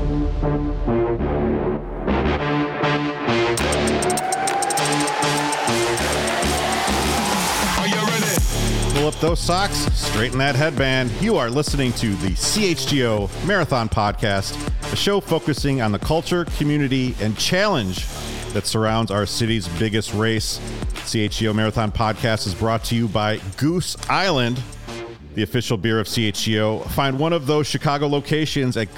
Pull up those socks, straighten that headband. You are listening to the CHGO Marathon Podcast, a show focusing on the culture, community, and challenge that surrounds our city's biggest race. CHGO Marathon Podcast is brought to you by Goose Island, the official beer of CHGO. Find one of those Chicago locations at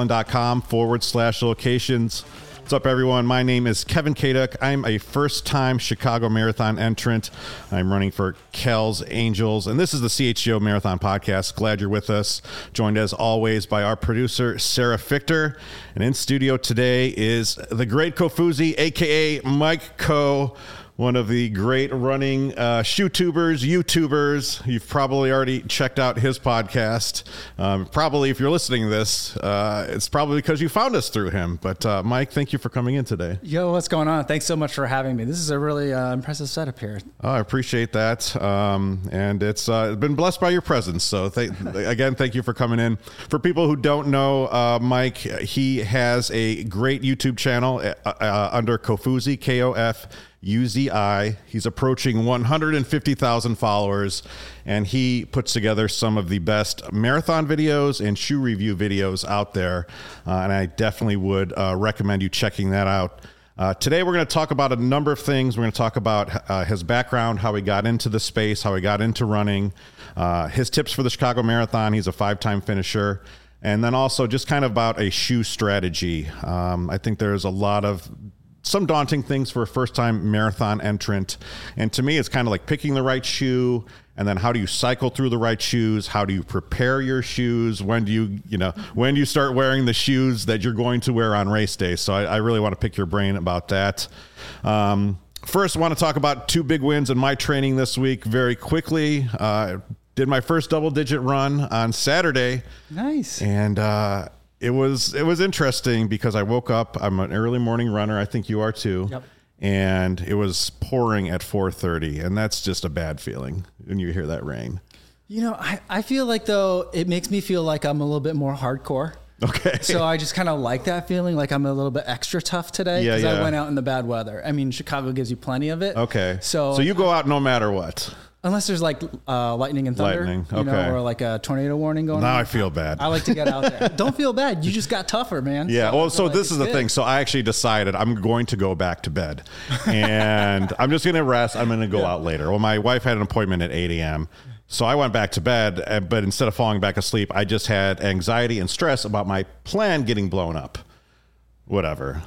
gooseisland.com/locations. What's up, everyone? My name is Kevin Kaduk. I'm a first-time Chicago Marathon entrant. I'm running for Kells Angels, and this is the CHGO Marathon Podcast. Glad you're with us. Joined, as always, by our producer, Sarah Fichter. And in studio today is the great Kofuzi, a.k.a. Mike Coe, one of the great running shoe-tubers, YouTubers. You've probably already checked out his podcast. Probably, if you're listening to this, it's probably because you found us through him. But Mike, thank you for coming in today. Yo, what's going on? Thanks so much for having me. This is a really impressive setup here. Oh, I appreciate that. And it's been blessed by your presence. So again, thank you for coming in. For people who don't know Mike, he has a great YouTube channel under Kofuzi, K-O-F-U-Z-I. He's approaching 150,000 followers, and he puts together some of the best marathon videos and shoe review videos out there. And I definitely would recommend you checking that out. Today, we're going to talk about a number of things. We're going to talk about his background, how he got into the space, how he got into running, his tips for the Chicago Marathon. He's a 5-time finisher. And then also just kind of about a shoe strategy. I think there's some daunting things for a first-time marathon entrant. And to me, it's kind of like picking the right shoe, and then how do you cycle through the right shoes? How do you prepare your shoes? When do you start wearing the shoes that you're going to wear on race day? So I really want to pick your brain about that. First, I want to talk about 2 big wins in my training this week very quickly. Did my first double-digit run on Saturday. Nice. And it was interesting because I woke up. I'm an early morning runner. I think you are too. Yep. And it was pouring at 4:30, and that's just a bad feeling when you hear that rain. You know, I feel like, though, it makes me feel like I'm a little bit more hardcore. Okay. So I just kind of like that feeling, like I'm a little bit extra tough today because I went out in the bad weather. I mean, Chicago gives you plenty of it. Okay. So you go out no matter what. Unless there's like lightning and thunder, or like a tornado warning going on. Now I feel bad. I like to get out there. Don't feel bad. You just got tougher, man. Yeah. So this is the thing. So I actually decided I'm going to go back to bed and I'm just going to rest. I'm going to go out later. Well, my wife had an appointment at 8 a.m. So I went back to bed, but instead of falling back asleep, I just had anxiety and stress about my plan getting blown up. Whatever.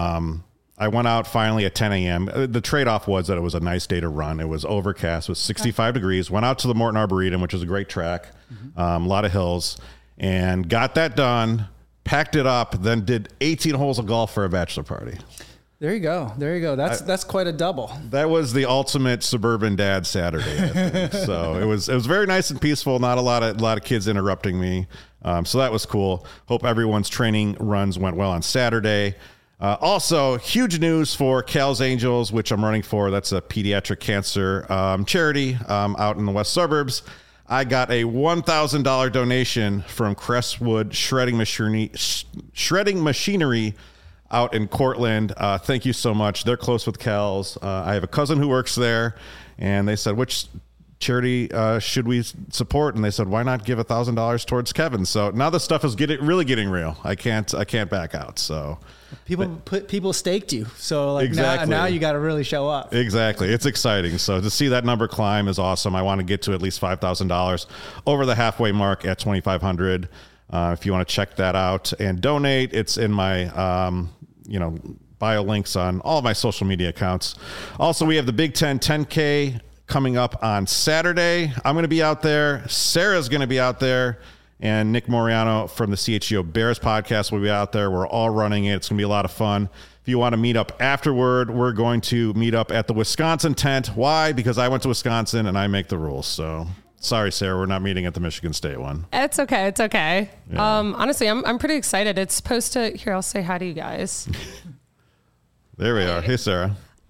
I went out finally at 10 a.m. The trade-off was that it was a nice day to run. It was overcast. It was 65 degrees. Went out to the Morton Arboretum, which is a great track, a lot of hills, and got that done, packed it up, then did 18 holes of golf for a bachelor party. There you go. That's quite a double. That was the ultimate suburban dad Saturday, I think. So it was very nice and peaceful. Not a lot of kids interrupting me. So that was cool. Hope everyone's training runs went well on Saturday. Also, huge news for Kells Angels, which I'm running for. That's a pediatric cancer charity out in the west suburbs. I got a $1,000 donation from Crestwood Shredding Machinery out in Cortland. Thank you so much. They're close with Kells. I have a cousin who works there, and they said, which charity should we support? And they said, why not give $1,000 towards Kevin? So now the stuff is really getting real. I can't back out. So people staked you. So like exactly. now you got to really show up. Exactly. It's exciting. So to see that number climb is awesome. I want to get to at least $5,000 over the halfway mark at 2,500. If you want to check that out and donate, it's in my, bio links on all of my social media accounts. Also, we have the Big Ten 10K coming up on Saturday. I'm going to be out there. Sarah's going to be out there. And Nick Moriano from the CHGO Bears podcast will be out there. We're all running it. It's going to be a lot of fun. If you want to meet up afterward, we're going to meet up at the Wisconsin tent. Why? Because I went to Wisconsin and I make the rules. So sorry, Sarah, we're not meeting at the Michigan State one. It's okay. It's okay. Yeah. Honestly, I'm pretty excited. It's supposed to... Here, I'll say hi to you guys. There we are. Hey, Sarah.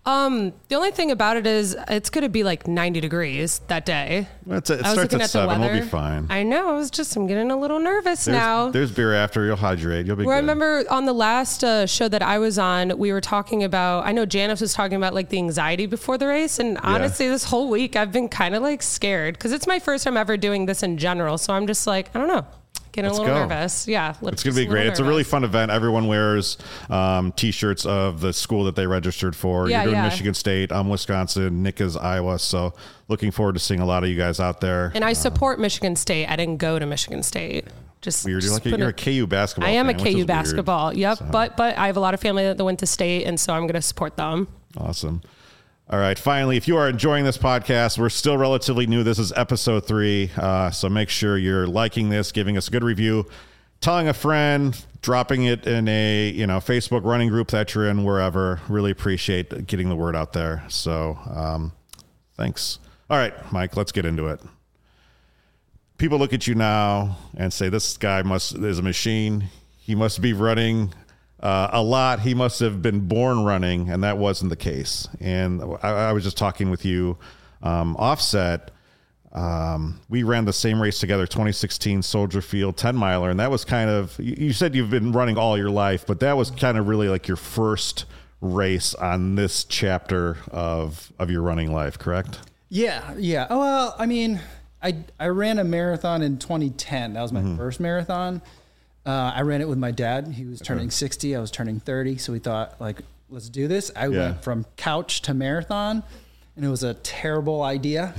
The only thing about it is it's going to be like 90 degrees that day. It starts at 7. We'll be fine. I know. I'm getting a little nervous now. There's beer after. You'll hydrate. You'll be good. I remember on the last show that I was on, we were talking about, I know Janice was talking about like the anxiety before the race. And honestly, this whole week I've been kind of like scared because it's my first time ever doing this in general. So I'm just like, I don't know. Getting a little nervous. Yeah. It's going to be great. It's a really fun event. Everyone wears T-shirts of the school that they registered for. You're doing Michigan State. I'm Wisconsin. Nick is Iowa. So looking forward to seeing a lot of you guys out there. And I support Michigan State. I didn't go to Michigan State. Just weird. You're a KU basketball fan. I am a KU basketball. Weird. Yep. So. But I have a lot of family that went to state, and so I'm going to support them. Awesome. All right. Finally, if you are enjoying this podcast, we're still relatively new. This is episode 3. So make sure you're liking this, giving us a good review, telling a friend, dropping it in a Facebook running group that you're in, wherever. Really appreciate getting the word out there. So thanks. All right, Mike, let's get into it. People look at you now and say, this guy is a machine. He must be running a lot. He must have been born running, and that wasn't the case. And I was just talking with you offset. We ran the same race together, 2016 Soldier Field 10 miler. And that was kind of, you said you've been running all your life, but that was kind of really like your first race on this chapter of your running life, correct? Yeah. Yeah. Oh, well, I mean, I ran a marathon in 2010. That was my first marathon. I ran it with my dad. He was turning 60. I was turning 30. So we thought, like, let's do this. I went from couch to marathon, and it was a terrible idea.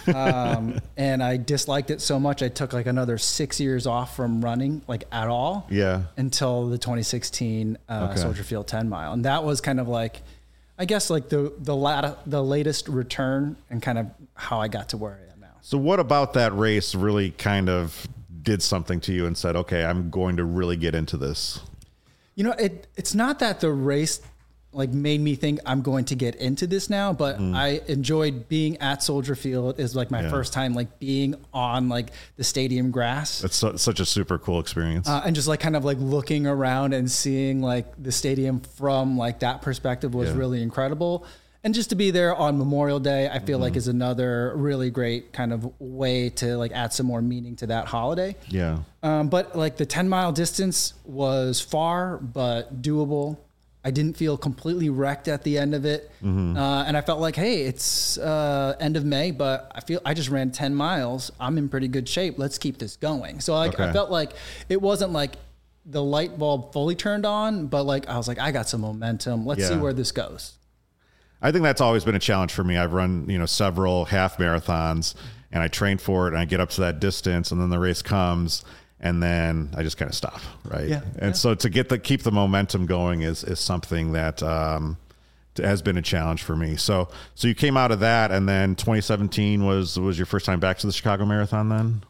And I disliked it so much, I took like another 6 years off from running, like at all. Yeah. Until the 2016 Soldier Field 10 mile. And that was kind of like, I guess, like the latest return and kind of how I got to where I am now. So what about that race really kind of did something to you and said, okay, I'm going to really get into this? It's not that the race like made me think I'm going to get into this now, but I enjoyed being at Soldier Field. Is like my first time like being on like the stadium grass. It's such a super cool experience. And just like kind of like looking around and seeing like the stadium from like that perspective was really incredible. And just to be there on Memorial Day, I feel like is another really great kind of way to like add some more meaning to that holiday. Yeah. But like the 10 mile distance was far, but doable. I didn't feel completely wrecked at the end of it. And I felt like, hey, it's end of May, but I just ran 10 miles. I'm in pretty good shape. Let's keep this going. So like, I felt like it wasn't like the light bulb fully turned on, but like, I was like, I got some momentum. Let's see where this goes. I think that's always been a challenge for me. I've run, several half marathons and I trained for it and I get up to that distance and then the race comes and then I just kind of stop. Right. Yeah. And so to keep the momentum going is something that, has been a challenge for me. So you came out of that and then 2017 was your first time back to the Chicago Marathon then?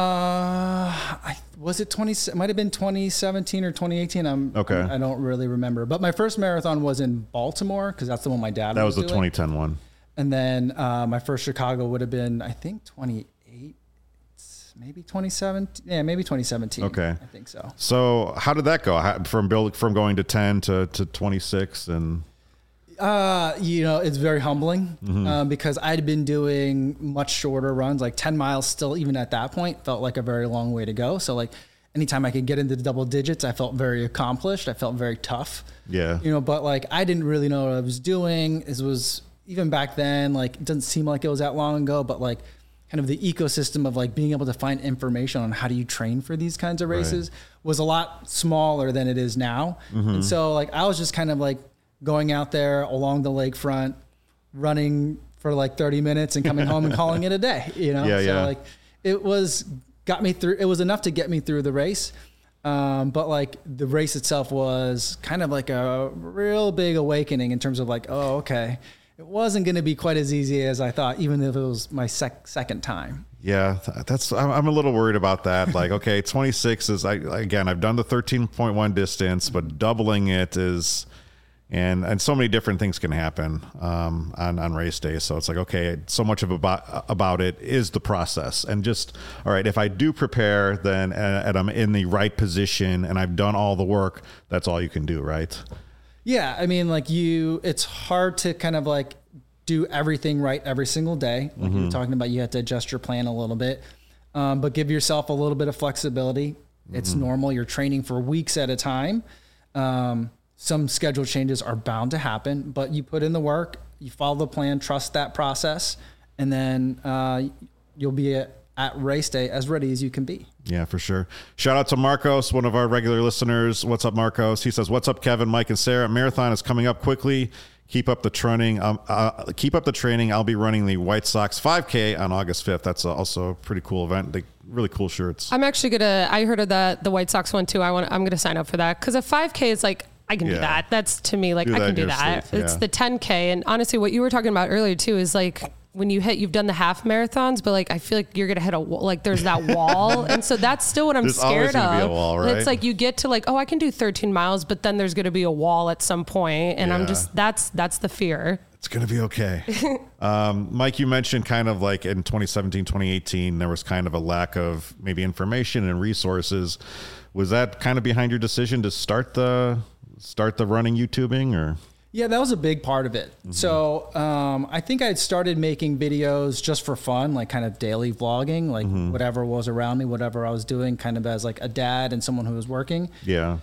It might have been 2017 or 2018. I don't really remember, but my first marathon was in Baltimore because that's the one my dad was doing. 2010 one. And then, my first Chicago would have been, I think 28, maybe 2017. Yeah, maybe 2017. Okay. I think so. So how did that go from going to 10 to 26 and? It's very humbling because I'd been doing much shorter runs, like 10 miles still, even at that point, felt like a very long way to go. So like anytime I could get into the double digits, I felt very accomplished. I felt very tough. Yeah. But like I didn't really know what I was doing. It was even back then, like it doesn't seem like it was that long ago, but like kind of the ecosystem of like being able to find information on how do you train for these kinds of races was a lot smaller than it is now. And so like I was just kind of like going out there along the lakefront, running for like 30 minutes and coming home and calling it a day, like it got me through. It was enough to get me through the race. But like the race itself was kind of like a real big awakening in terms of like, oh, okay. It wasn't going to be quite as easy as I thought, even if it was my second time. Yeah, I'm a little worried about that. Like, okay, 26 is, I've done the 13.1 distance, but doubling it is, and so many different things can happen on race day. So it's like, okay, so much of about it is the process. And just, all right, if I do prepare, then and I'm in the right position and I've done all the work, that's all you can do, right? Yeah. I mean, like it's hard to kind of like do everything right every single day. Like you were talking about, you have to adjust your plan a little bit, but give yourself a little bit of flexibility. It's normal. You're training for weeks at a time. Some schedule changes are bound to happen, but you put in the work, you follow the plan, trust that process, and then you'll be at race day as ready as you can be. Yeah, for sure. Shout out to Marcos, one of our regular listeners. What's up, Marcos? He says, "What's up, Kevin, Mike, and Sarah? Marathon is coming up quickly. Keep up the training. Keep up the training. I'll be running the White Sox 5K on August 5th. That's also a pretty cool event. They really cool shirts. I'm actually I heard of the White Sox one too. I'm gonna sign up for that because a 5K is like, I can do that. That's to me, like, I can do that. It's the 10K. And honestly, what you were talking about earlier too is like, when you've done the half marathons, but like, I feel like you're going to hit like there's that wall. And so that's still what I'm scared of. Be a wall, right? It's like, you get to like, oh, I can do 13 miles, but then there's going to be a wall at some point. And I'm just, that's the fear. It's going to be okay. Mike, you mentioned kind of like in 2017, 2018, there was kind of a lack of maybe information and resources. Was that kind of behind your decision to start the running YouTubing, or? Yeah, that was a big part of it. So I think I'd started making videos just for fun, like kind of daily vlogging, like whatever was around me, whatever I was doing, kind of as like a dad and someone who was working. Yeah.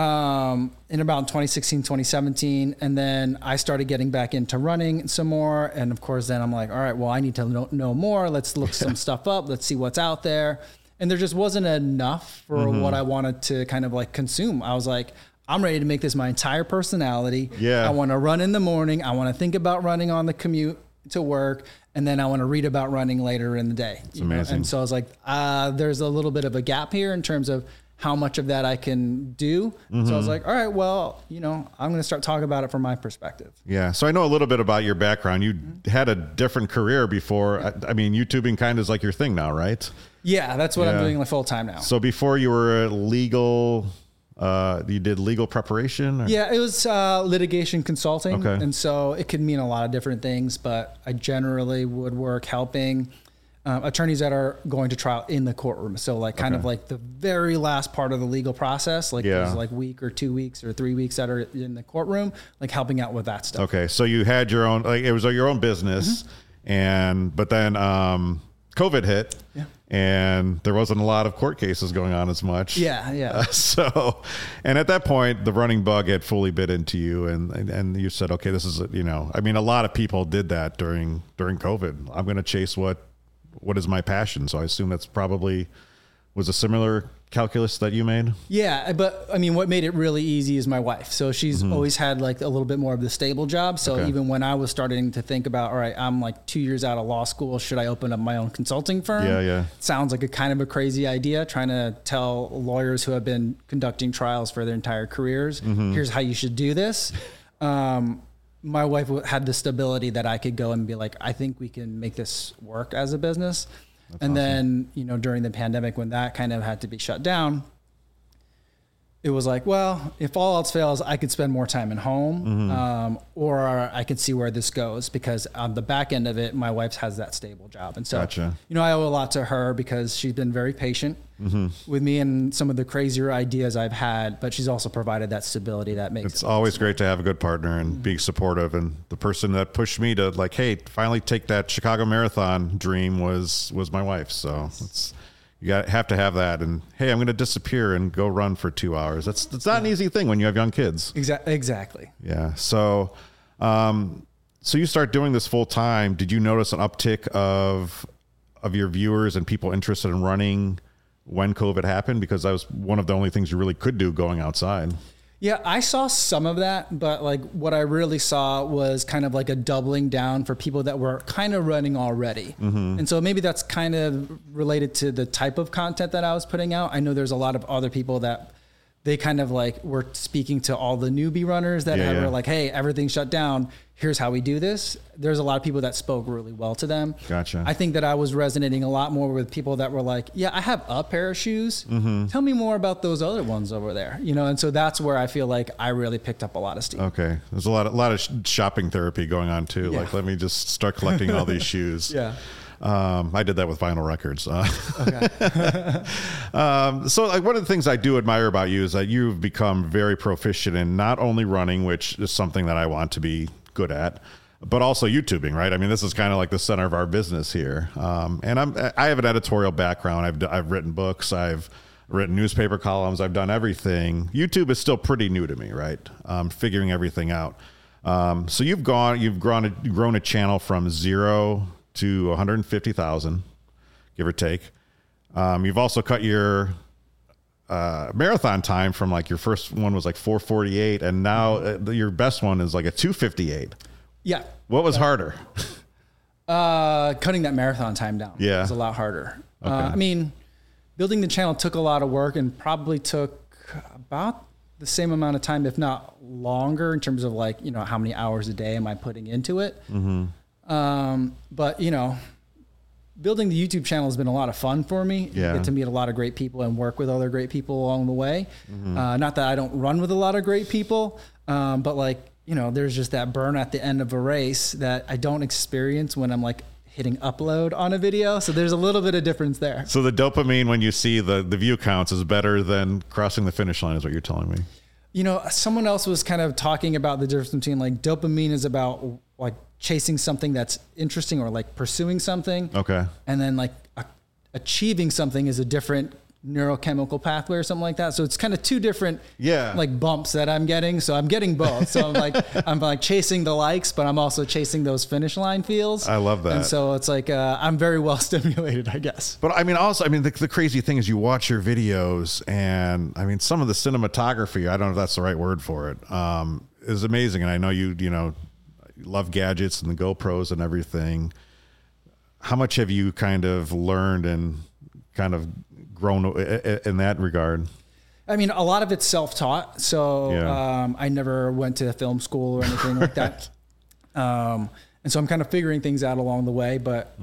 In about 2016, 2017. And then I started getting back into running some more. And of course, then I'm like, all right, well, I need to know more. Let's look some stuff up. Let's see what's out there. And there just wasn't enough for what I wanted to kind of like consume. I was like, I'm ready to make this my entire personality. Yeah. I want to run in the morning. I want to think about running on the commute to work. And then I want to read about running later in the day. It's amazing. And so I was like, there's a little bit of a gap here in terms of how much of that I can do. So I was like, all right, well, I'm going to start talking about it from my perspective. Yeah. So I know a little bit about your background. You had a different career before. I mean, YouTubing kind of is like your thing now, right? Yeah, that's what I'm doing like full time now. So before you were legal, you did legal preparation? Or? Yeah, it was litigation consulting. Okay. And so it could mean a lot of different things, but I generally would work helping attorneys that are going to trial in the courtroom. So like kind of like the very last part of the legal process, like there's like week or 2 weeks or 3 weeks that are in the courtroom, like helping out with that stuff. Okay. So you had your own, like it was your own business but then COVID hit and there wasn't a lot of court cases going on as much. Yeah. And at that point, the running bug had fully bit into you and you said, okay, this is, I mean, a lot of people did that during COVID. I'm going to chase what is my passion. So I assume that's probably was a similar calculus that you made. Yeah. But I mean, what made it really easy is my wife. So she's always had like a little bit more of the stable job. So even when I was starting to think about, all right, I'm like 2 years out of law school. Should I open up my own consulting firm? Yeah. Sounds like a kind of a crazy idea, trying to tell lawyers who have been conducting trials for their entire careers, here's how you should do this. My wife had the stability that I could go and be like, I think we can make this work as a business. That's awesome. Then, during the pandemic, when that kind of had to be shut down, it was like, well, if all else fails, I could spend more time at home, or I could see where this goes, because on the back end of it, my wife has that stable job. And so, gotcha. I owe a lot to her because she's been very patient with me and some of the crazier ideas I've had, but she's also provided that stability that makes it's always great to have a good partner and being supportive. And the person that pushed me to like, hey, finally take that Chicago Marathon dream was my wife. So you have to have that. And hey, I'm going to disappear and go run for 2 hours. That's not an easy thing when you have young kids. Exactly. Yeah. So you start doing this full time. Did you notice an uptick of your viewers and people interested in running when COVID happened? Because that was one of the only things you really could do going outside. Yeah, I saw some of that, but like what I really saw was kind of like a doubling down for people that were kind of running already. And so maybe that's kind of related to the type of content that I was putting out. I know there's a lot of other people that they kind of like were speaking to all the newbie runners that were like, hey, everything's shut down. Here's how we do this. There's a lot of people that spoke really well to them. Gotcha. I think that I was resonating a lot more with people that were like, yeah, I have a pair of shoes. Tell me more about those other ones over there. And so that's where I feel like I really picked up a lot of steam. Okay. There's a lot of shopping therapy going on too. Yeah. Like, let me just start collecting all these shoes. Yeah. I did that with vinyl records. So like one of the things I do admire about you is that you've become very proficient in not only running, which is something that I want to be good at, but also YouTubing, right? I mean, this is kind of like the center of our business here. And I have an editorial background. I've written books. I've written newspaper columns. I've done everything. YouTube is still pretty new to me, right? Figuring everything out. So you've grown a channel from 0 to 150,000, give or take. You've also cut your marathon time from like your first one was like 4:48, and now your best one is like a 2:58. Yeah. What was harder? Cutting that marathon time down. Yeah. Was a lot harder. Okay. I mean, building the channel took a lot of work and probably took about the same amount of time, if not longer, in terms of like, how many hours a day am I putting into it? Mm-hmm. But building the YouTube channel has been a lot of fun for me. Yeah. You get to meet a lot of great people and work with other great people along the way. Mm-hmm. Not that I don't run with a lot of great people, but like, there's just that burn at the end of a race that I don't experience when I'm like hitting upload on a video. So there's a little bit of difference there. So the dopamine when you see the view counts is better than crossing the finish line is what you're telling me. Someone else was kind of talking about the difference between like dopamine is about like chasing something that's interesting or like pursuing something. Okay. And then like achieving something is a different neurochemical pathway or something like that. So it's kind of two different like bumps that I'm getting. So I'm getting both. So I'm like chasing the likes, but I'm also chasing those finish line feels. I love that. And so it's like I'm very well stimulated, I guess. But I mean, also, the crazy thing is you watch your videos and I mean, some of the cinematography, I don't know if that's the right word for it, is amazing. And I know you love gadgets and the GoPros and everything. How much have you kind of learned and kind of grown in that regard? I mean, a lot of it's self-taught. So I never went to film school or anything like that. And so I'm kind of figuring things out along the way, but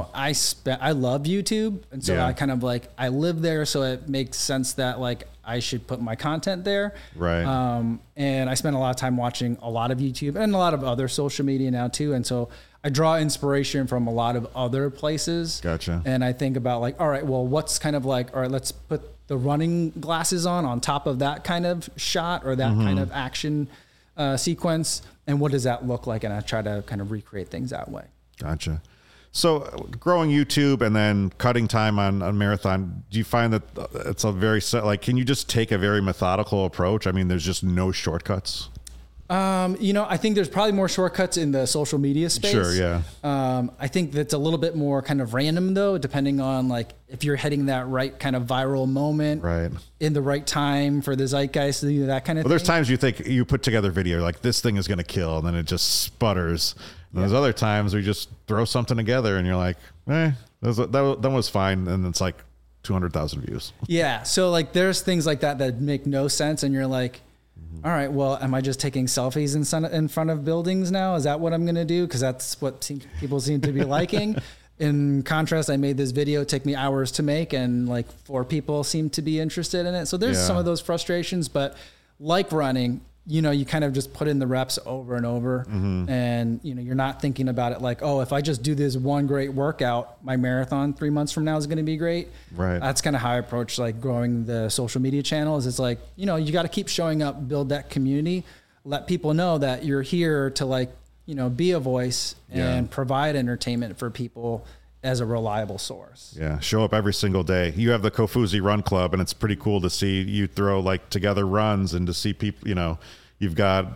I love YouTube. And so I kind of like, I live there. So it makes sense that like I should put my content there. Right. And I spend a lot of time watching a lot of YouTube and a lot of other social media now too. And so I draw inspiration from a lot of other places. Gotcha. And I think about like, all right, well, what's kind of like, all right, let's put the running glasses on top of that kind of shot or that kind of action sequence. And what does that look like? And I try to kind of recreate things that way. Gotcha. So growing YouTube and then cutting time on marathon, do you find that it's a very can you just take a very methodical approach? I mean, there's just no shortcuts. I think there's probably more shortcuts in the social media space. Sure, yeah. I think that's a little bit more kind of random though, depending on like if you're hitting that right kind of viral moment, right, in the right time for the zeitgeist, that kind of thing. There's times you think you put together a video like this thing is going to kill, and then it just sputters. And there's other times where you just throw something together and you're like, that was fine, and it's like 200,000 views. Yeah. So like there's things like that make no sense, and you're like, all right, well, am I just taking selfies in front of buildings now? Is that what I'm going to do? Because that's what people seem to be liking. In contrast, I made this video, take me hours to make, and like 4 people seem to be interested in it. So there's some of those frustrations, but like running, you kind of just put in the reps over and over, and you're not thinking about it like, oh, if I just do this one great workout, my marathon 3 months from now is going to be great. Right. That's kind of how I approach like growing the social media channels. It's like, you got to keep showing up, build that community, let people know that you're here to like, be a voice and provide entertainment for people as a reliable source. Yeah. Show up every single day. You have the Kofuzi Run Club, and it's pretty cool to see you throw like together runs and to see people, you've got,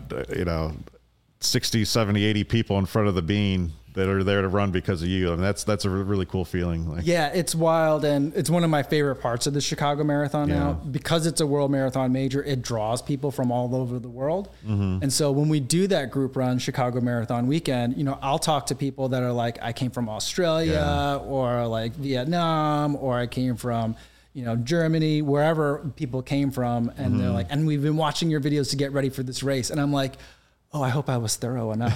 60, 70, 80 people in front of the bean that are there to run because of you. And that's a really cool feeling. Yeah, it's wild. And it's one of my favorite parts of the Chicago Marathon now, because it's a world marathon major. It draws people from all over the world. And so when we do that group run Chicago Marathon weekend, I'll talk to people that are like, I came from Australia or like Vietnam, or I came from, Germany, wherever people came from. And they're like, and we've been watching your videos to get ready for this race. And I'm like, oh, I hope I was thorough enough.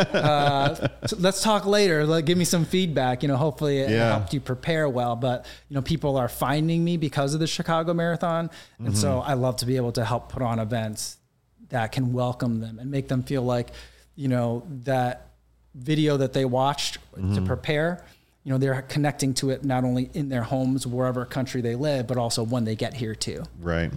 So let's talk later. Give me some feedback. Hopefully it helped you prepare well. But, people are finding me because of the Chicago Marathon. And so I love to be able to help put on events that can welcome them and make them feel like, that video that they watched to prepare, they're connecting to it not only in their homes, wherever country they live, but also when they get here too. Right.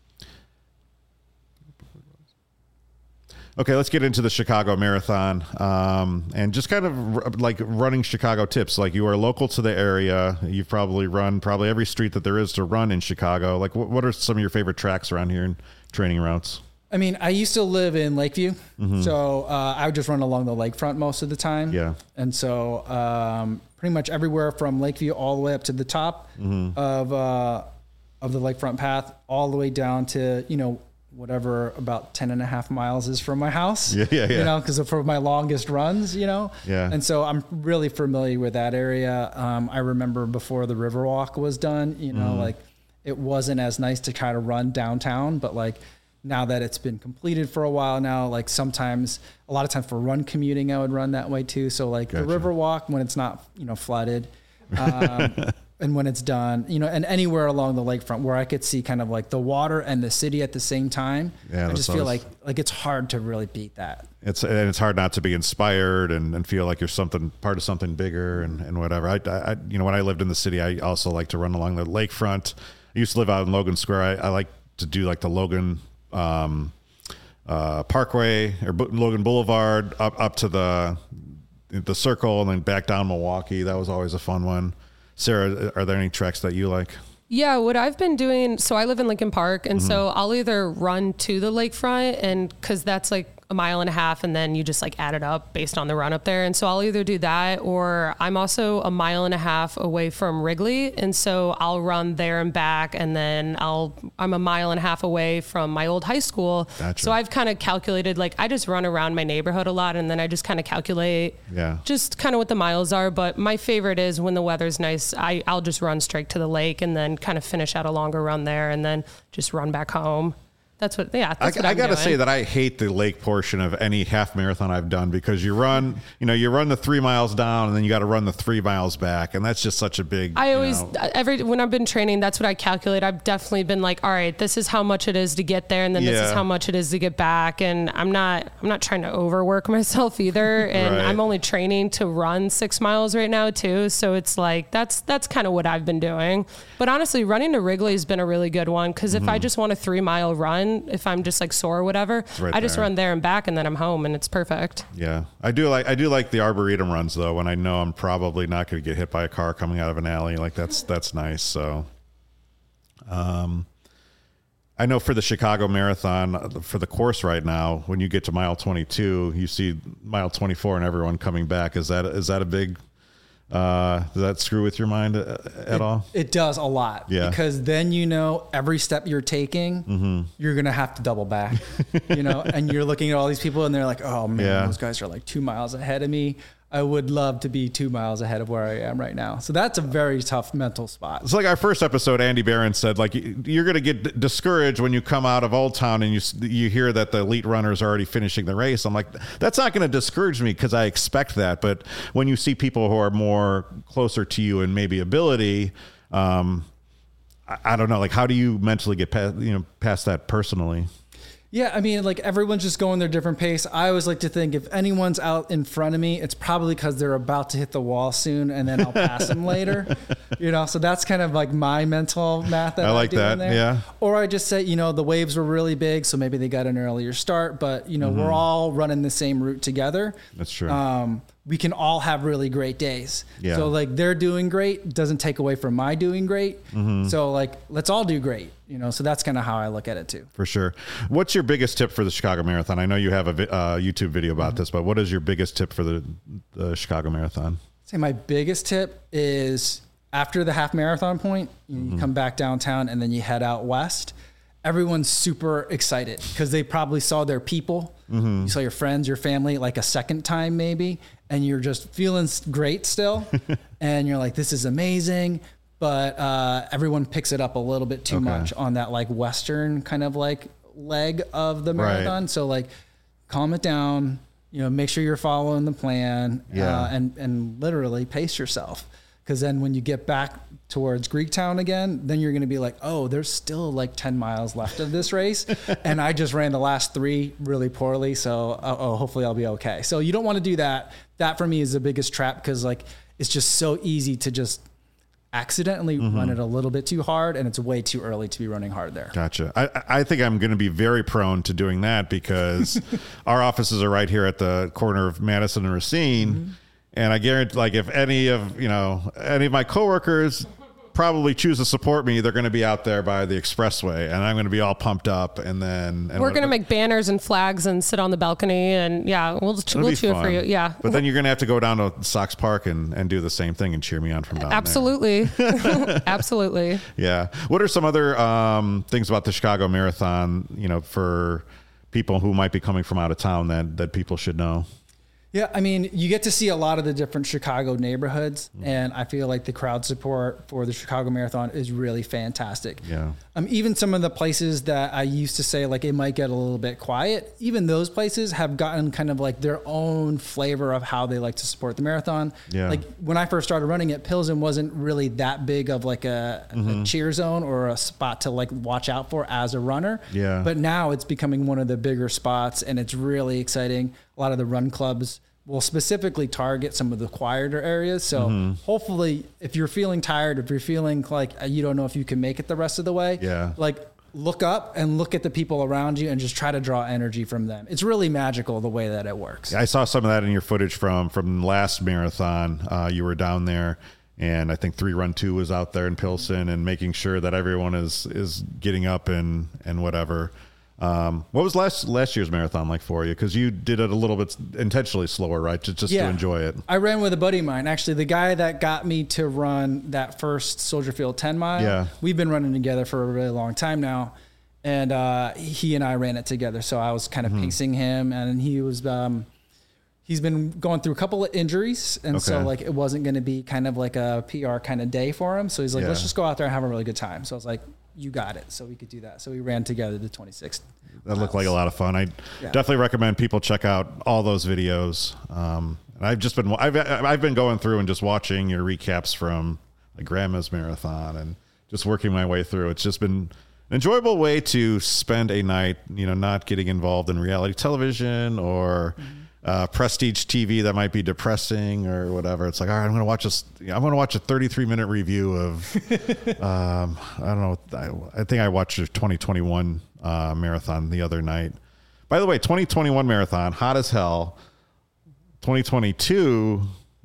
Okay, let's get into the Chicago Marathon, and just kind of like running Chicago tips. Like, you are local to the area. You've probably run every street that there is to run in Chicago. Like, what are some of your favorite tracks around here and training routes? I mean, I used to live in Lakeview, so I would just run along the lakefront most of the time. Yeah. And so pretty much everywhere from Lakeview all the way up to the top of the lakefront path, all the way down to, whatever about 10 and a half miles is from my house. Yeah. Because for my longest runs, Yeah. And so I'm really familiar with that area. I remember before the Riverwalk was done, like it wasn't as nice to try to run downtown, but like now that it's been completed for a while now, like a lot of times for run commuting, I would run that way too. So like the Riverwalk, when it's not, flooded, and when it's done, and anywhere along the lakefront where I could see kind of like the water and the city at the same time, I just feel like it's hard to really beat that. It's hard not to be inspired and feel like you're part of something bigger and whatever. I when I lived in the city, I also like to run along the lakefront. I used to live out in Logan Square. I like to do like the Logan Parkway or Logan Boulevard up to the Circle and then back down Milwaukee. That was always a fun one. Sarah, are there any tracks that you like? Yeah, what I've been doing, so I live in Lincoln Park, and so I'll either run to the lakefront, and because that's like a mile and a half, and then you just like add it up based on the run up there. And so I'll either do that, or I'm also a mile and a half away from Wrigley, and so I'll run there and back, and then I'm a mile and a half away from my old high school. Gotcha. So I've kind of calculated, like I just run around my neighborhood a lot, and then I just kind of calculate just kind of what the miles are. But my favorite is when the weather's nice, I'll just run straight to the lake and then kind of finish out a longer run there and then just run back home. That's what I got to say that I hate the lake portion of any half marathon I've done, because you run the 3 miles down and then you got to run the 3 miles back. And that's just such a big, when I've been training, that's what I calculate. I've definitely been like, all right, this is how much it is to get there. And then this is how much it is to get back. And I'm not trying to overwork myself either. And I'm only training to run 6 miles right now too. So it's like, that's kind of what I've been doing. But honestly, running to Wrigley has been a really good one. Cause if I just want a 3 mile run, if I'm just like sore or whatever, I just run there and back, and then I'm home, and it's perfect. Yeah. I do like the Arboretum runs though, when I know I'm probably not going to get hit by a car coming out of an alley. Like that's nice. So, I know for the Chicago Marathon, for the course right now, when you get to mile 22, you see mile 24 and everyone coming back. Is that a big, does that screw with your mind at all? It does a lot. Yeah. Because then, every step you're taking, you're going to have to double back, and you're looking at all these people and they're like, oh man, those guys are like 2 miles ahead of me. I would love to be 2 miles ahead of where I am right now. So that's a very tough mental spot. It's like our first episode, Andy Barron said, like, you're going to get discouraged when you come out of Old Town and you hear that the elite runners are already finishing the race. I'm like, that's not going to discourage me because I expect that. But when you see people who are more closer to you and maybe ability, I don't know, like, how do you mentally get past that personally? Yeah, I mean, like everyone's just going their different pace. I always like to think if anyone's out in front of me, it's probably because they're about to hit the wall soon, and then I'll pass them later. So that's kind of like my mental math that I like that. There. Yeah. Or I just say, the waves were really big, so maybe they got an earlier start, but we're all running the same route together. That's true. We can all have really great days. Yeah. So like they're doing great doesn't take away from my doing great. So like let's all do great. So that's kind of how I look at it too. For sure. What's your biggest tip for the Chicago Marathon? I know you have a YouTube video about this, but what is your biggest tip for the Chicago Marathon? I'd say my biggest tip is after the half marathon point, you come back downtown and then you head out west. Everyone's super excited because they probably saw their people. You saw your friends, your family, like a second time maybe, and you're just feeling great still. And you're like, this is amazing. But everyone picks it up a little bit too much on that like Western kind of like leg of the marathon. So like calm it down, make sure you're following the plan and literally pace yourself. Because then when you get back towards Greektown again, then you're going to be like, oh, there's still like 10 miles left of this race. And I just ran the last 3 really poorly. So hopefully I'll be okay. So you don't want to do that. That for me is the biggest trap because like it's just so easy to just accidentally run it a little bit too hard, and it's way too early to be running hard there. Gotcha. I think I'm going to be very prone to doing that because our offices are right here at the corner of Madison and Racine. And I guarantee, like, if any of my coworkers probably choose to support me, they're going to be out there by the expressway, and I'm going to be all pumped up. And then we're going to make banners and flags and sit on the balcony, and we'll cheer for you. Yeah, but then you're going to have to go down to Sox Park and do the same thing and cheer me on from down Absolutely. there. Absolutely. Yeah. What are some other things about the Chicago Marathon, for people who might be coming from out of town that people should know? Yeah, I mean, you get to see a lot of the different Chicago neighborhoods, and I feel like the crowd support for the Chicago Marathon is really fantastic. Yeah. Even some of the places that I used to say, like, it might get a little bit quiet, even those places have gotten kind of like their own flavor of how they like to support the marathon. Yeah. Like, when I first started running it, Pilsen wasn't really that big of like a cheer zone or a spot to like watch out for as a runner. Yeah. But now it's becoming one of the bigger spots, and it's really exciting. A lot of the run clubs will specifically target some of the quieter areas. So hopefully, if you're feeling tired, if you're feeling like you don't know if you can make it the rest of the way, like, look up and look at the people around you and just try to draw energy from them. It's really magical the way that it works. I saw some of that in your footage from last marathon. You were down there, and I think 3 Run 2 was out there in Pilsen and making sure that everyone is getting up and whatever. What was last year's marathon like for you? Because you did it a little bit intentionally slower, right? Just to enjoy it. I ran with a buddy of mine. Actually, the guy that got me to run that first Soldier Field 10 mile. Yeah. We've been running together for a really long time now. And he and I ran it together. So I was kind of pacing him, and he was he's been going through a couple of injuries. And so like it wasn't going to be kind of like a PR kind of day for him. So he's like, let's just go out there and have a really good time. So I was like, you got it. So we could do that. So we ran together the 26th. That looked like a lot of fun. I definitely recommend people check out all those videos. And I've been going through and just watching your recaps from like Grandma's Marathon and just working my way through. It's just been an enjoyable way to spend a night, not getting involved in reality television or prestige TV that might be depressing or whatever. It's like, all right, I'm going to watch this. I'm going to watch a 33-minute review of, I don't know. I think I watched a 2021 marathon the other night. By the way, 2021 marathon, hot as hell. 2022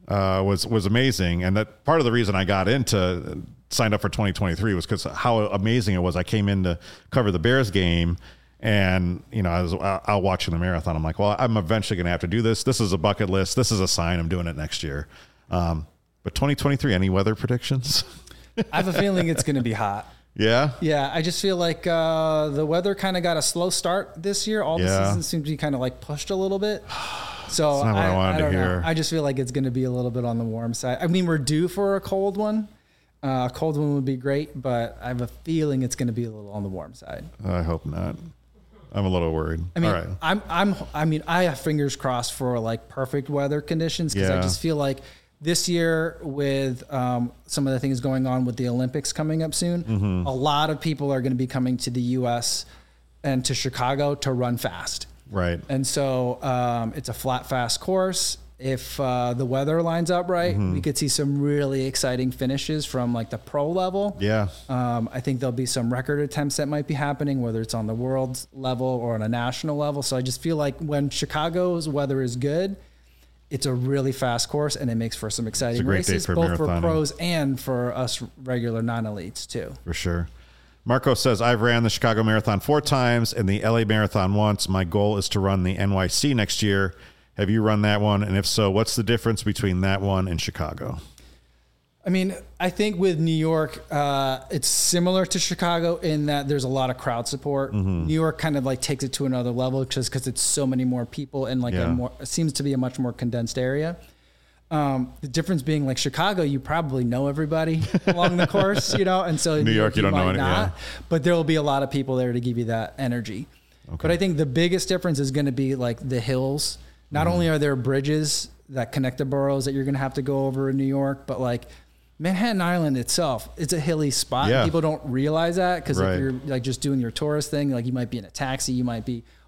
was amazing. And that part of the reason I signed up for 2023 was because how amazing it was. I came in to cover the Bears game. And, I was out watching the marathon. I'm like, well, I'm eventually going to have to do this. This is a bucket list. This is a sign I'm doing it next year. But 2023, any weather predictions? I have a feeling it's going to be hot. Yeah? Yeah, I just feel like the weather kind of got a slow start this year. All the seasons seem to be kind of like pushed a little bit. So that's not what I wanted to hear. I just feel like it's going to be a little bit on the warm side. I mean, we're due for a cold one. A cold one would be great, but I have a feeling it's going to be a little on the warm side. I hope not. I'm a little worried. I mean, all right. I have fingers crossed for like perfect weather conditions because I just feel like this year with some of the things going on with the Olympics coming up soon, a lot of people are going to be coming to the U.S. and to Chicago to run fast. Right. And so it's a flat, fast course. If the weather lines up right, we could see some really exciting finishes from like the pro level. Yeah. I think there'll be some record attempts that might be happening, whether it's on the world level or on a national level. So I just feel like when Chicago's weather is good, it's a really fast course and it makes for some exciting races, both for pros and for us regular non-elites too. For sure. Marco says, I've ran the Chicago Marathon 4 times and the LA Marathon once. My goal is to run the NYC next year. Have you run that one? And if so, what's the difference between that one and Chicago? I mean, I think with New York, it's similar to Chicago in that there's a lot of crowd support. New York kind of like takes it to another level just because it's so many more people and like it seems to be a much more condensed area. The difference being like Chicago, you probably know everybody along the course, and so New York, you don't know anyone. But there will be a lot of people there to give you that energy. Okay. But I think the biggest difference is going to be like the hills. Not only are there bridges that connect the boroughs that you're going to have to go over in New York, but like Manhattan Island itself, it's a hilly spot. Yeah. People don't realize that because if you're like just doing your tourist thing, like you might be in a taxi, you might be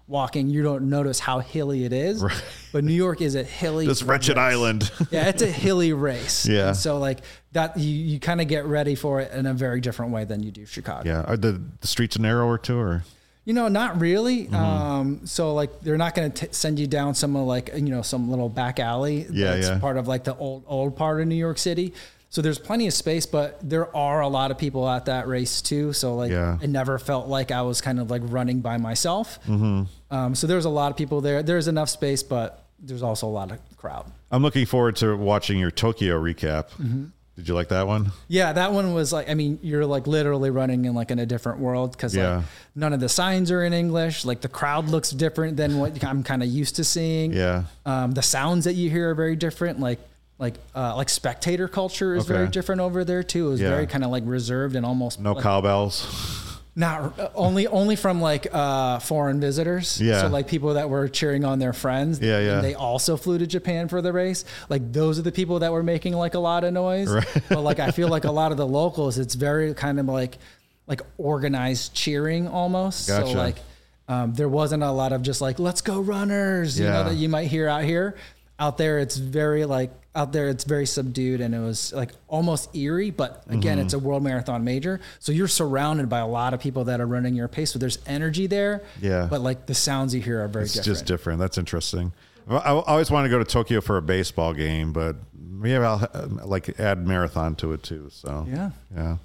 walking, you don't notice how hilly it is. Right. But New York is a hilly, this wretched island. Yeah, it's a hilly race. Yeah. And so like that, you kind of get ready for it in a very different way than you do Chicago. Yeah. Are the streets narrower too, or? Not really. So like they're not going to send you down some like, some little back alley. That's part of like the old part of New York City. So there's plenty of space, but there are a lot of people at that race too. So like it never felt like I was kind of like running by myself. So there's a lot of people there. There's enough space, but there's also a lot of crowd. I'm looking forward to watching your Tokyo recap. Did you like that one? Yeah, that one was like, you're like literally running in like in a different world because like none of the signs are in English. Like the crowd looks different than what I'm kind of used to seeing. Yeah. The sounds that you hear are very different. Like spectator culture is very different over there too. It was very kind of like reserved and almost no like, cowbells. Not only from like foreign visitors. Yeah. So like people that were cheering on their friends. Yeah, yeah. And they also flew to Japan for the race. Like those are the people that were making like a lot of noise. Right. But like I feel like a lot of the locals, it's very kind of like organized cheering almost. Gotcha. So like there wasn't a lot of just like let's go runners, you know, that you might hear out here. Out there, it's very subdued, and it was like almost eerie. But again, it's a World Marathon major, so you're surrounded by a lot of people that are running your pace. So there's energy there. Yeah. But like the sounds you hear are very different. It's just different. That's interesting. I always want to go to Tokyo for a baseball game, but maybe I'll like add marathon to it too. So yeah.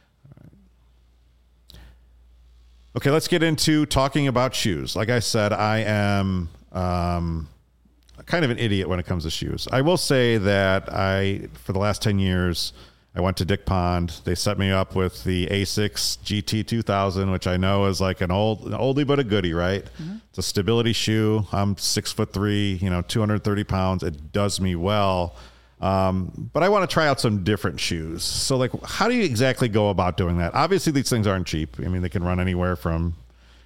Okay, let's get into talking about shoes. Like I said, I am kind of an idiot when it comes to shoes. I will say that for the last 10 years, I went to Dick Pond. They set me up with the Asics GT 2000, which I know is like an oldie but a goodie, right? It's a stability shoe. I'm 6'3", 230 pounds. It does me well. But I want to try out some different shoes. So like, how do you exactly go about doing that? Obviously these things aren't cheap. I mean, they can run anywhere from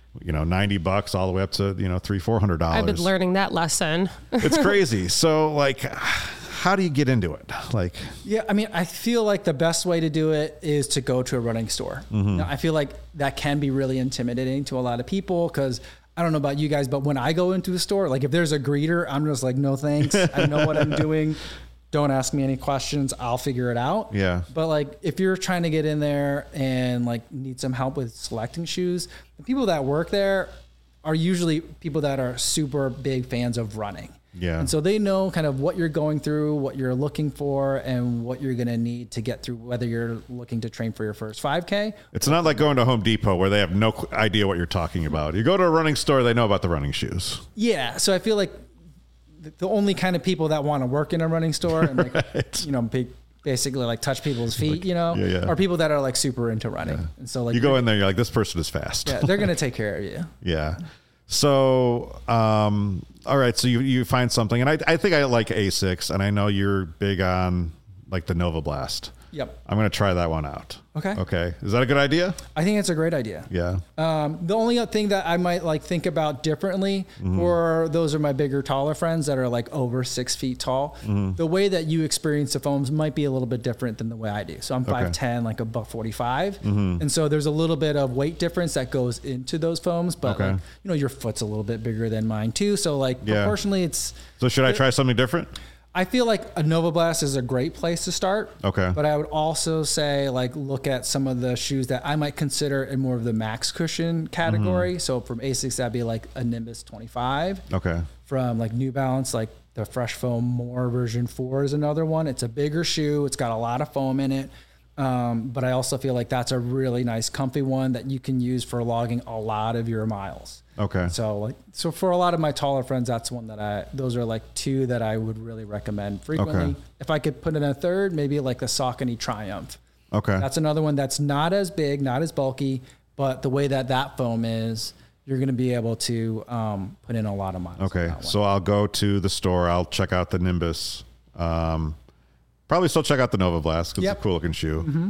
$90 all the way up to $300-$400. I've been learning that lesson. It's crazy. So like, how do you get into it? Like, yeah, I feel like the best way to do it is to go to a running store. Now, I feel like that can be really intimidating to a lot of people because I don't know about you guys, but when I go into a store, like if there's a greeter, I'm just like, no thanks. I know what I'm doing. Don't ask me any questions. I'll figure it out. Yeah. But like, if you're trying to get in there and like need some help with selecting shoes, the people that work there are usually people that are super big fans of running. Yeah. And so they know kind of what you're going through, what you're looking for, and what you're going to need to get through, whether you're looking to train for your first 5K. It's not like going to Home Depot where they have no idea what you're talking about. You go to a running store, they know about the running shoes. Yeah. So I feel like the only kind of people that want to work in a running store and like, basically like touch people's feet, are people that are like super into running. Yeah. And so like you go in there, you're like, this person is fast. Yeah. They're going to take care of you. Yeah. So, all right. So you find something, and I think I like Asics, and I know you're big on like the Nova Blast. Yep. I'm going to try that one out. Okay. Is that a good idea? I think it's a great idea. Yeah. The only thing that I might like think about differently for those are my bigger, taller friends that are like over 6 feet tall. The way that you experience the foams might be a little bit different than the way I do. So I'm 5'10", like $145. And so there's a little bit of weight difference that goes into those foams, but like, your foot's a little bit bigger than mine too. So like proportionally it's. So should I try something different? I feel like a Nova Blast is a great place to start. Okay. But I would also say like look at some of the shoes that I might consider in more of the max cushion category. So from Asics, that'd be like a Nimbus 25. Okay. From like New Balance, like the Fresh Foam More version 4 is another one. It's a bigger shoe. It's got a lot of foam in it. But I also feel like that's a really nice comfy one that you can use for logging a lot of your miles. Okay. So for a lot of my taller friends, that's one that those are like two that I would really recommend frequently. Okay. If I could put in a third, maybe like the Saucony Triumph. Okay. That's another one that's not as big, not as bulky, but the way that foam is, you're going to be able to put in a lot of miles. Okay. So I'll go to the store. I'll check out the Nimbus. Probably still check out the Nova Blast because it's a cool looking shoe.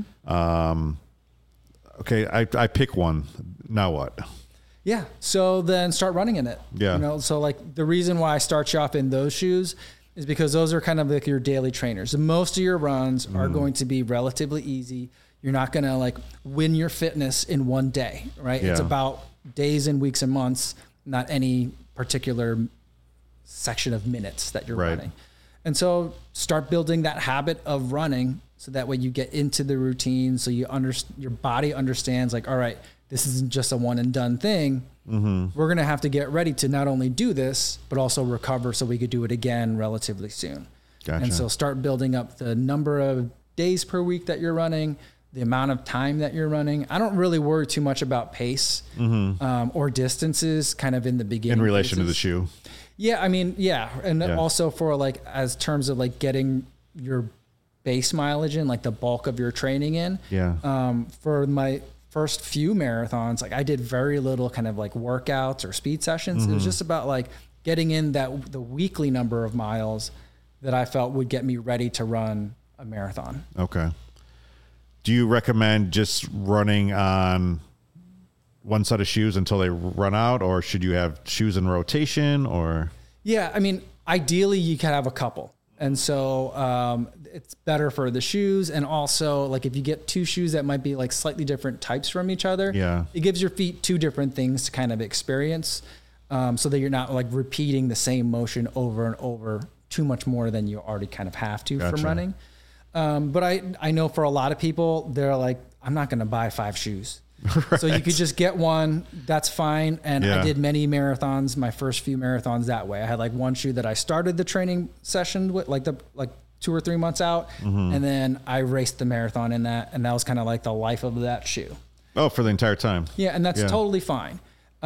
Okay. I pick one. Now what? Yeah. So then start running in it. Yeah. So like the reason why I start you off in those shoes is because those are kind of like your daily trainers. Most of your runs are going to be relatively easy. You're not going to like win your fitness in one day, right? Yeah. It's about days and weeks and months not any particular section of minutes that you're running. And so start building that habit of running so that way you get into the routine. So your body understands like, all right, this isn't just a one and done thing. We're going to have to get ready to not only do this, but also recover so we could do it again relatively soon. Gotcha. And so start building up the number of days per week that you're running, the amount of time that you're running. I don't really worry too much about pace or distances kind of in the beginning. In relation to the shoe. Yeah, I mean, yeah. And also for like, as terms of like getting your base mileage in, like the bulk of your training in. Yeah. For my first few marathons, like I did very little kind of like workouts or speed sessions. It was just about like getting in the weekly number of miles that I felt would get me ready to run a marathon. Okay. Do you recommend just running on one set of shoes until they run out, or should you have shoes in rotation? Or yeah, I mean, ideally you can have a couple, and so it's better for the shoes, and also like if you get two shoes that might be like slightly different types from each other, it gives your feet two different things to kind of experience, so that you're not like repeating the same motion over and over too much more than you already kind of have to from running. But I know for a lot of people, they're like, I'm not going to buy 5 shoes. Right. So you could just get one. That's fine. And I did many marathons, my first few marathons that way. I had like one shoe that I started the training session with, like 2 or 3 months out. And then I raced the marathon in that. And that was kind of like the life of that shoe. Oh, for the entire time. Yeah. And that's totally fine.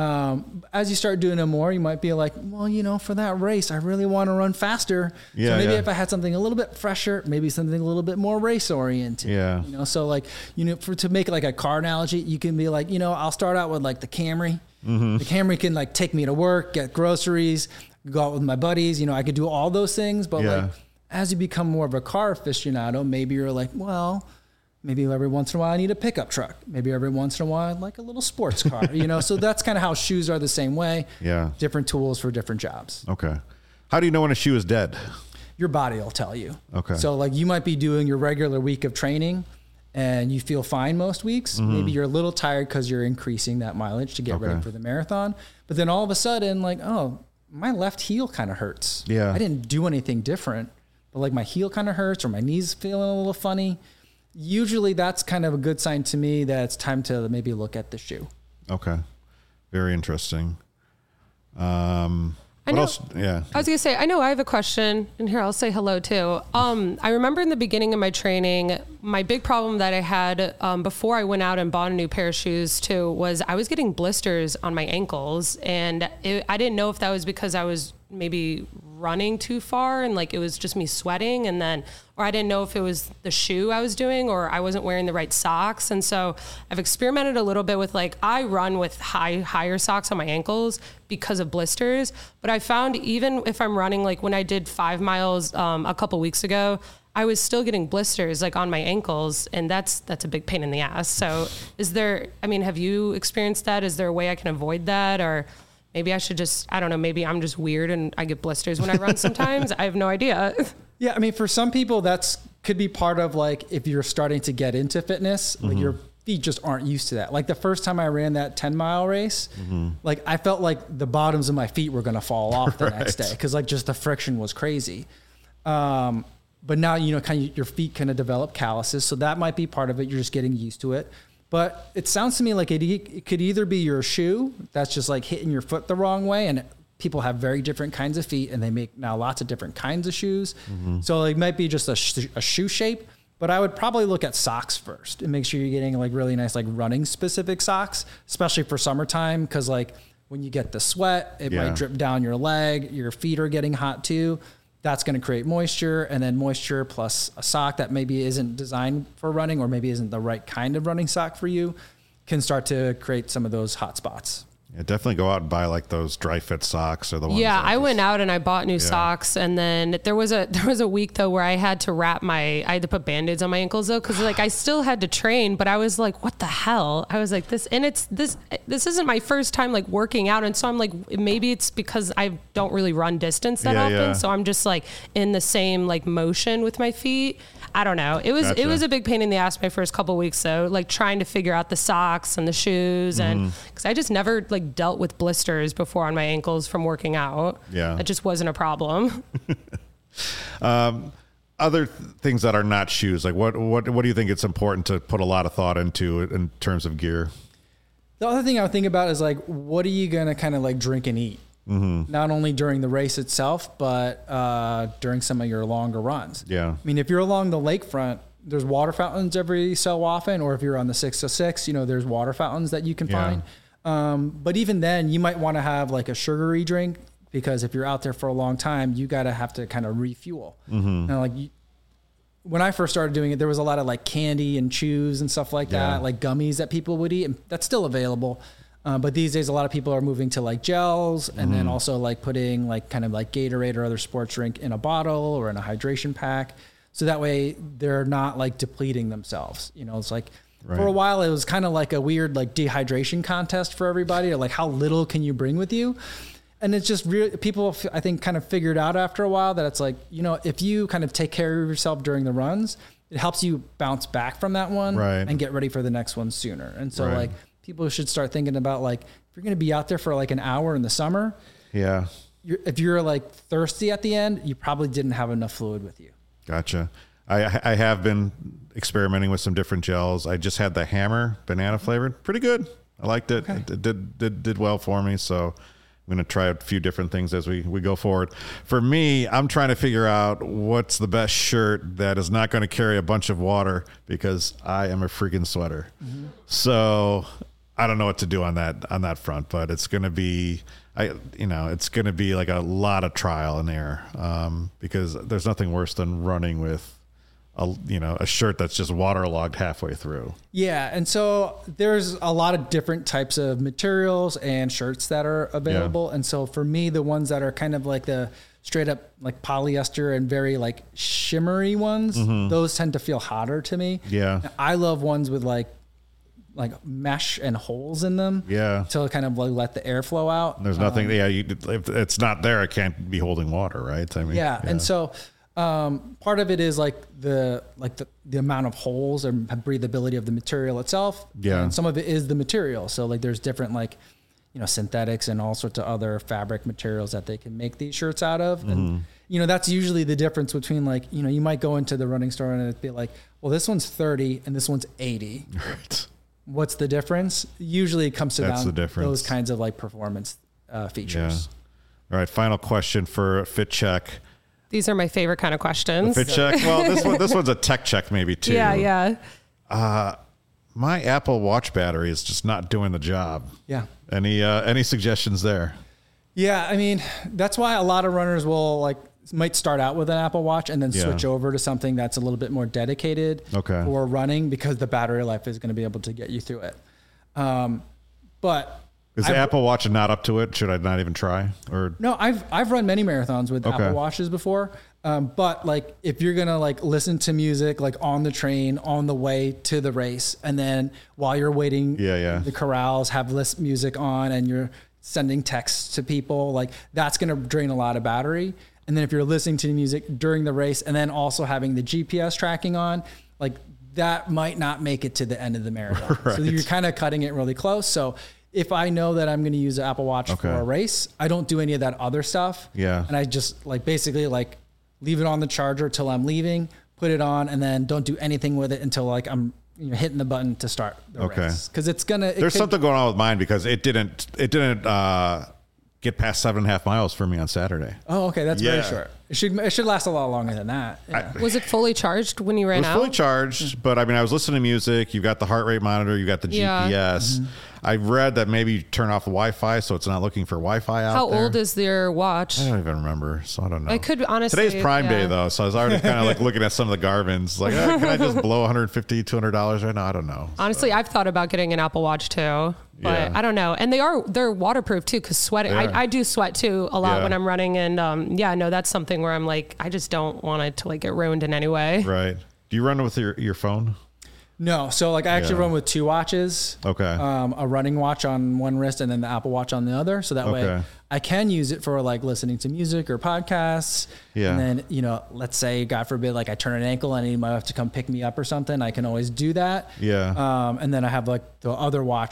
As you start doing it more, you might be like, well, you know, for that race, I really want to run faster. So maybe if I had something a little bit fresher, maybe something a little bit more race oriented. Yeah. You know, so like, you know, to make like a car analogy, you can be like, you know, I'll start out with like the Camry. The Camry can like take me to work, get groceries, go out with my buddies. You know, I could do all those things. But like, as you become more of a car aficionado, maybe you're like, well, maybe every once in a while I need a pickup truck. Maybe every once in a while I'd like a little sports car, you know? So that's kind of how shoes are the same way. Yeah. Different tools for different jobs. Okay. How do you know when a shoe is dead? Your body will tell you. Okay. So like you might be doing your regular week of training and you feel fine most weeks. Maybe you're a little tired because you're increasing that mileage to get ready for the marathon. But then all of a sudden like, oh, my left heel kind of hurts. Yeah. I didn't do anything different, but like my heel kind of hurts or my knees feeling a little funny. Usually that's kind of a good sign to me that it's time to maybe look at the shoe. Okay. Very interesting. What else? Yeah. I was going to say, I know I have a question, and here I'll say hello too. I remember in the beginning of my training, my big problem that I had before I went out and bought a new pair of shoes too was I was getting blisters on my ankles, and I didn't know if that was because I was maybe running too far and like it was just me sweating, and then, or I didn't know if it was the shoe I was doing or I wasn't wearing the right socks. And so I've experimented a little bit with like, I run with higher socks on my ankles because of blisters, but I found even if I'm running, like when I did 5 miles a couple weeks ago, I was still getting blisters like on my ankles, and that's a big pain in the ass. So have you experienced that? Is there a way I can avoid that? Or maybe I should just, I don't know, maybe I'm just weird and I get blisters when I run sometimes. I have no idea. Yeah. I mean, for some people that's could be part of like, if you're starting to get into fitness, like your feet just aren't used to that. Like the first time I ran that 10-mile race, like I felt like the bottoms of my feet were going to fall off the next day. Cause like just the friction was crazy. But now, you know, kind of your feet kind of develop calluses. So that might be part of it. You're just getting used to it. But it sounds to me like it could either be your shoe that's just like hitting your foot the wrong way. And people have very different kinds of feet and they make now lots of different kinds of shoes. So it might be just a shoe shape, but I would probably look at socks first and make sure you're getting like really nice, like running specific socks, especially for summertime. Cause like when you get the sweat, it might drip down your leg, your feet are getting hot too. That's going to create moisture, and then moisture plus a sock that maybe isn't designed for running or maybe isn't the right kind of running sock for you can start to create some of those hot spots. Yeah, definitely go out and buy like those dry fit socks or the ones. Yeah, I went out and I bought new socks, and then there was a week though where I had to I had to put Band-Aids on my ankles though, because like I still had to train, but I was like, what the hell? I was like, this isn't my first time like working out, and so I'm like, maybe it's because I don't really run distance that often, so I'm just like in the same like motion with my feet. I don't know. It was a big pain in the ass my first couple of weeks though, like trying to figure out the socks and the shoes, and because I just never like like dealt with blisters before on my ankles from working out. Yeah. It just wasn't a problem. Other things that are not shoes, like what do you think it's important to put a lot of thought into in terms of gear? The other thing I would think about is like, what are you going to kind of like drink and eat? Mm-hmm. Not only during the race itself, but during some of your longer runs. Yeah. I mean, if you're along the lakefront, there's water fountains every so often, or if you're on the 606, there's water fountains that you can find. But even then, you might want to have like a sugary drink, because if you're out there for a long time, you have to kind of refuel. Mm-hmm. When I first started doing it, there was a lot of like candy and chews and stuff like that, like gummies that people would eat, and that's still available. But these days, a lot of people are moving to like gels, and then also like putting like kind of like Gatorade or other sports drink in a bottle or in a hydration pack. So that way they're not like depleting themselves. It's like for a while, it was kind of like a weird like dehydration contest for everybody, or like how little can you bring with you? And it's just people, I think, kind of figured out after a while that it's like, if you kind of take care of yourself during the runs, it helps you bounce back from that one and get ready for the next one sooner. And so like people should start thinking about like, if you're going to be out there for like an hour in the summer, if you're like thirsty at the end, you probably didn't have enough fluid with you. Gotcha. I have been experimenting with some different gels. I just had the Hammer banana flavored. Pretty good. I liked it. Okay. It did well for me. So I'm going to try a few different things as we go forward. For me, I'm trying to figure out what's the best shirt that is not going to carry a bunch of water, because I am a freaking sweater. Mm-hmm. So I don't know what to do on that front, but it's going to be, it's going to be like a lot of trial and error, because there's nothing worse than running with a shirt that's just waterlogged halfway through. Yeah. And so there's a lot of different types of materials and shirts that are available. Yeah. And so for me, the ones that are kind of like the straight up like polyester and very like shimmery ones, those tend to feel hotter to me. Yeah. I love ones with like mesh and holes in them. Yeah. To kind of like let the air flow out. There's nothing. If it's not there, it can't be holding water, right? I mean. Yeah. And so part of it is like the amount of holes and breathability of the material itself. Yeah. And some of it is the material. So like there's different like, synthetics and all sorts of other fabric materials that they can make these shirts out of. And, that's usually the difference between like, you might go into the running store and it'd be like, well, this one's 30 and this one's 80. Right. What's the difference? Usually it comes to those kinds of like performance features. Yeah. All right. Final question for Fit Check. These are my favorite kind of questions. The Fit Check. Well, this one's a tech check maybe too. Yeah. My Apple Watch battery is just not doing the job. Yeah. Any suggestions there? Yeah. I mean, that's why a lot of runners might start out with an Apple Watch and then switch over to something that's a little bit more dedicated for running, because the battery life is going to be able to get you through it. But is the Apple Watch not up to it? Should I not even try? Or no, I've run many marathons with Apple Watches before. But like if you're gonna like listen to music like on the train on the way to the race, and then while you're waiting, the corrals have list music on, and you're sending texts to people, like that's gonna drain a lot of battery. And then if you're listening to music during the race and then also having the GPS tracking on, like that might not make it to the end of the marathon. Right. So you're kind of cutting it really close. So if I know that I'm going to use an Apple Watch for a race, I don't do any of that other stuff. Yeah. And I just basically leave it on the charger till I'm leaving, put it on, and then don't do anything with it until I'm hitting the button to start the race. Because it's gonna. There's something going on with mine, because it didn't get past 7.5 miles for me on Saturday. Oh, okay, that's very short. It should last a lot longer than that. Yeah. Was it fully charged when you ran out? It was fully charged, but I mean, I was listening to music. You've got the heart rate monitor. You got the GPS. Mm-hmm. I read that maybe you turn off the Wi-Fi, so it's not looking for Wi-Fi out there. How old is your watch? I don't even remember, so I don't know. I could honestly. Today's Prime Day, though, so I was already kind of looking at some of the Garmin's. Like, can I just blow $150, $200 right now? I don't know. Honestly, I've thought about getting an Apple Watch too, but I don't know. And they're waterproof too, because sweating. I do sweat too a lot when I'm running, and that's something where I'm like, I just don't want it to get ruined in any way. Right. Do you run with your phone? No. So I actually run with two watches. Okay. A running watch on one wrist and then the Apple Watch on the other. So that way I can use it for listening to music or podcasts. Yeah. And then, let's say, God forbid, I turn an ankle and I need my wife to come pick me up or something. I can always do that. Yeah. And then I have the other watch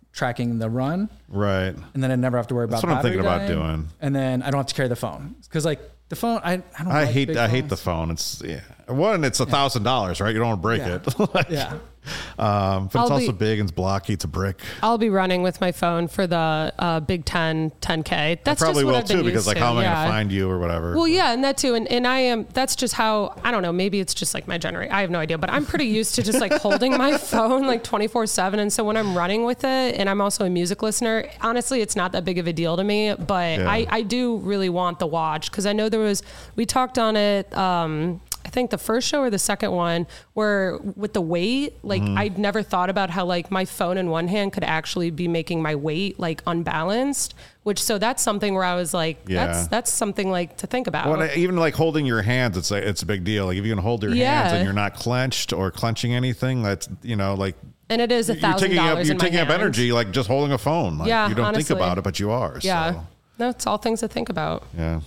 tracking the run. Right. And then I never have to worry about That's what I'm thinking about dying. doing. And then I don't have to carry the phone. Because like the phone, I don't I like hate big the phones. phone. It's one, it's $1,000, right? You don't want to break Yeah. it. Like, Yeah. but it's also big and it's blocky. It's a brick. I'll be running with my phone for the Big Ten 10K. That's I probably just what will I've been too, because used like to. how am I going Yeah. to find you or whatever? Well, yeah, and that too. And I am, that's just how, I don't know, maybe it's just like my generation. I have no idea, but I'm pretty used to just like holding my phone like 24/7. And so when I'm running with it, and I'm also a music listener, honestly, it's not that big of a deal to me, but Yeah. I do really want the watch, because I know we talked on it, I think the first show or the second one, where with the weight, like I'd never thought about how like my phone in one hand could actually be making my weight like unbalanced, so that's something where I was like, Yeah. that's something like to think about. Well, even like holding your hands, it's a big deal. Like if you can hold your hands and you're not clenched or clenching anything, that's, like. And it is $1,000 You're in my taking up hand. energy, like just holding a phone. Like, Yeah, you don't honestly. think about it, but you are. Yeah. So. No, it's all things to think about. Yeah.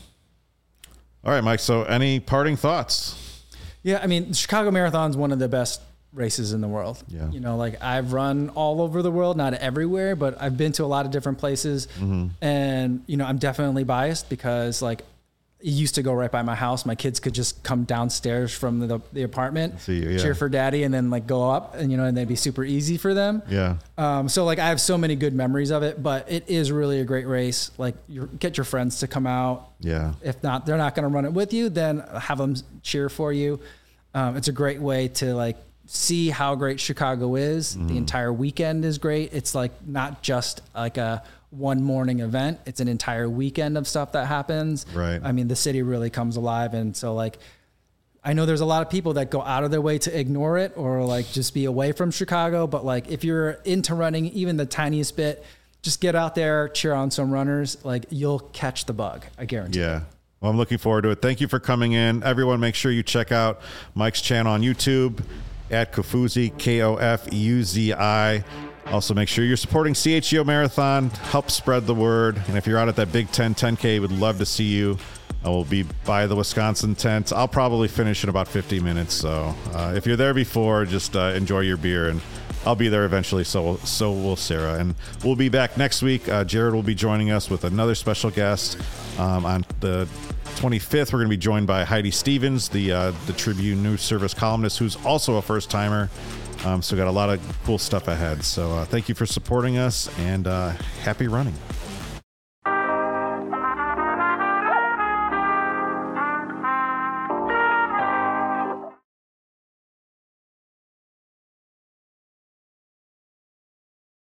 All right, Mike. So any parting thoughts? Yeah, I mean, the Chicago Marathon's one of the best races in the world. Yeah. Like I've run all over the world, not everywhere, but I've been to a lot of different places. And, I'm definitely biased because like it used to go right by my house. My kids could just come downstairs from the apartment, See you, yeah. cheer for daddy, and then like go up and, and they'd be super easy for them. Yeah. So like I have so many good memories of it, but it is really a great race. Like get your friends to come out. Yeah. If not, they're not going to run it with you, then have them cheer for you. It's a great way to like see how great Chicago is. The entire weekend is great. It's like not just like a one morning event. It's an entire weekend of stuff that happens. Right. I mean, the city really comes alive. And so like, I know there's a lot of people that go out of their way to ignore it or like just be away from Chicago. But like, if you're into running even the tiniest bit, just get out there, cheer on some runners. Like you'll catch the bug. I guarantee. Yeah. Well, I'm looking forward to it. Thank you for coming in. Everyone, make sure you check out Mike's channel on YouTube at Kofuzi, Kofuzi. Also, make sure you're supporting CHGO Marathon. Help spread the word. And if you're out at that Big Ten 10K, we'd love to see you. I will be by the Wisconsin tent. I'll probably finish in about 50 minutes. So if you're there before, just enjoy your beer. And I'll be there eventually. So will Sarah. And we'll be back next week. Jared will be joining us with another special guest on the 25th. We're going to be joined by Heidi Stevens, the Tribune News Service columnist, who's also a first-timer. So we got a lot of cool stuff ahead. So thank you for supporting us, and happy running.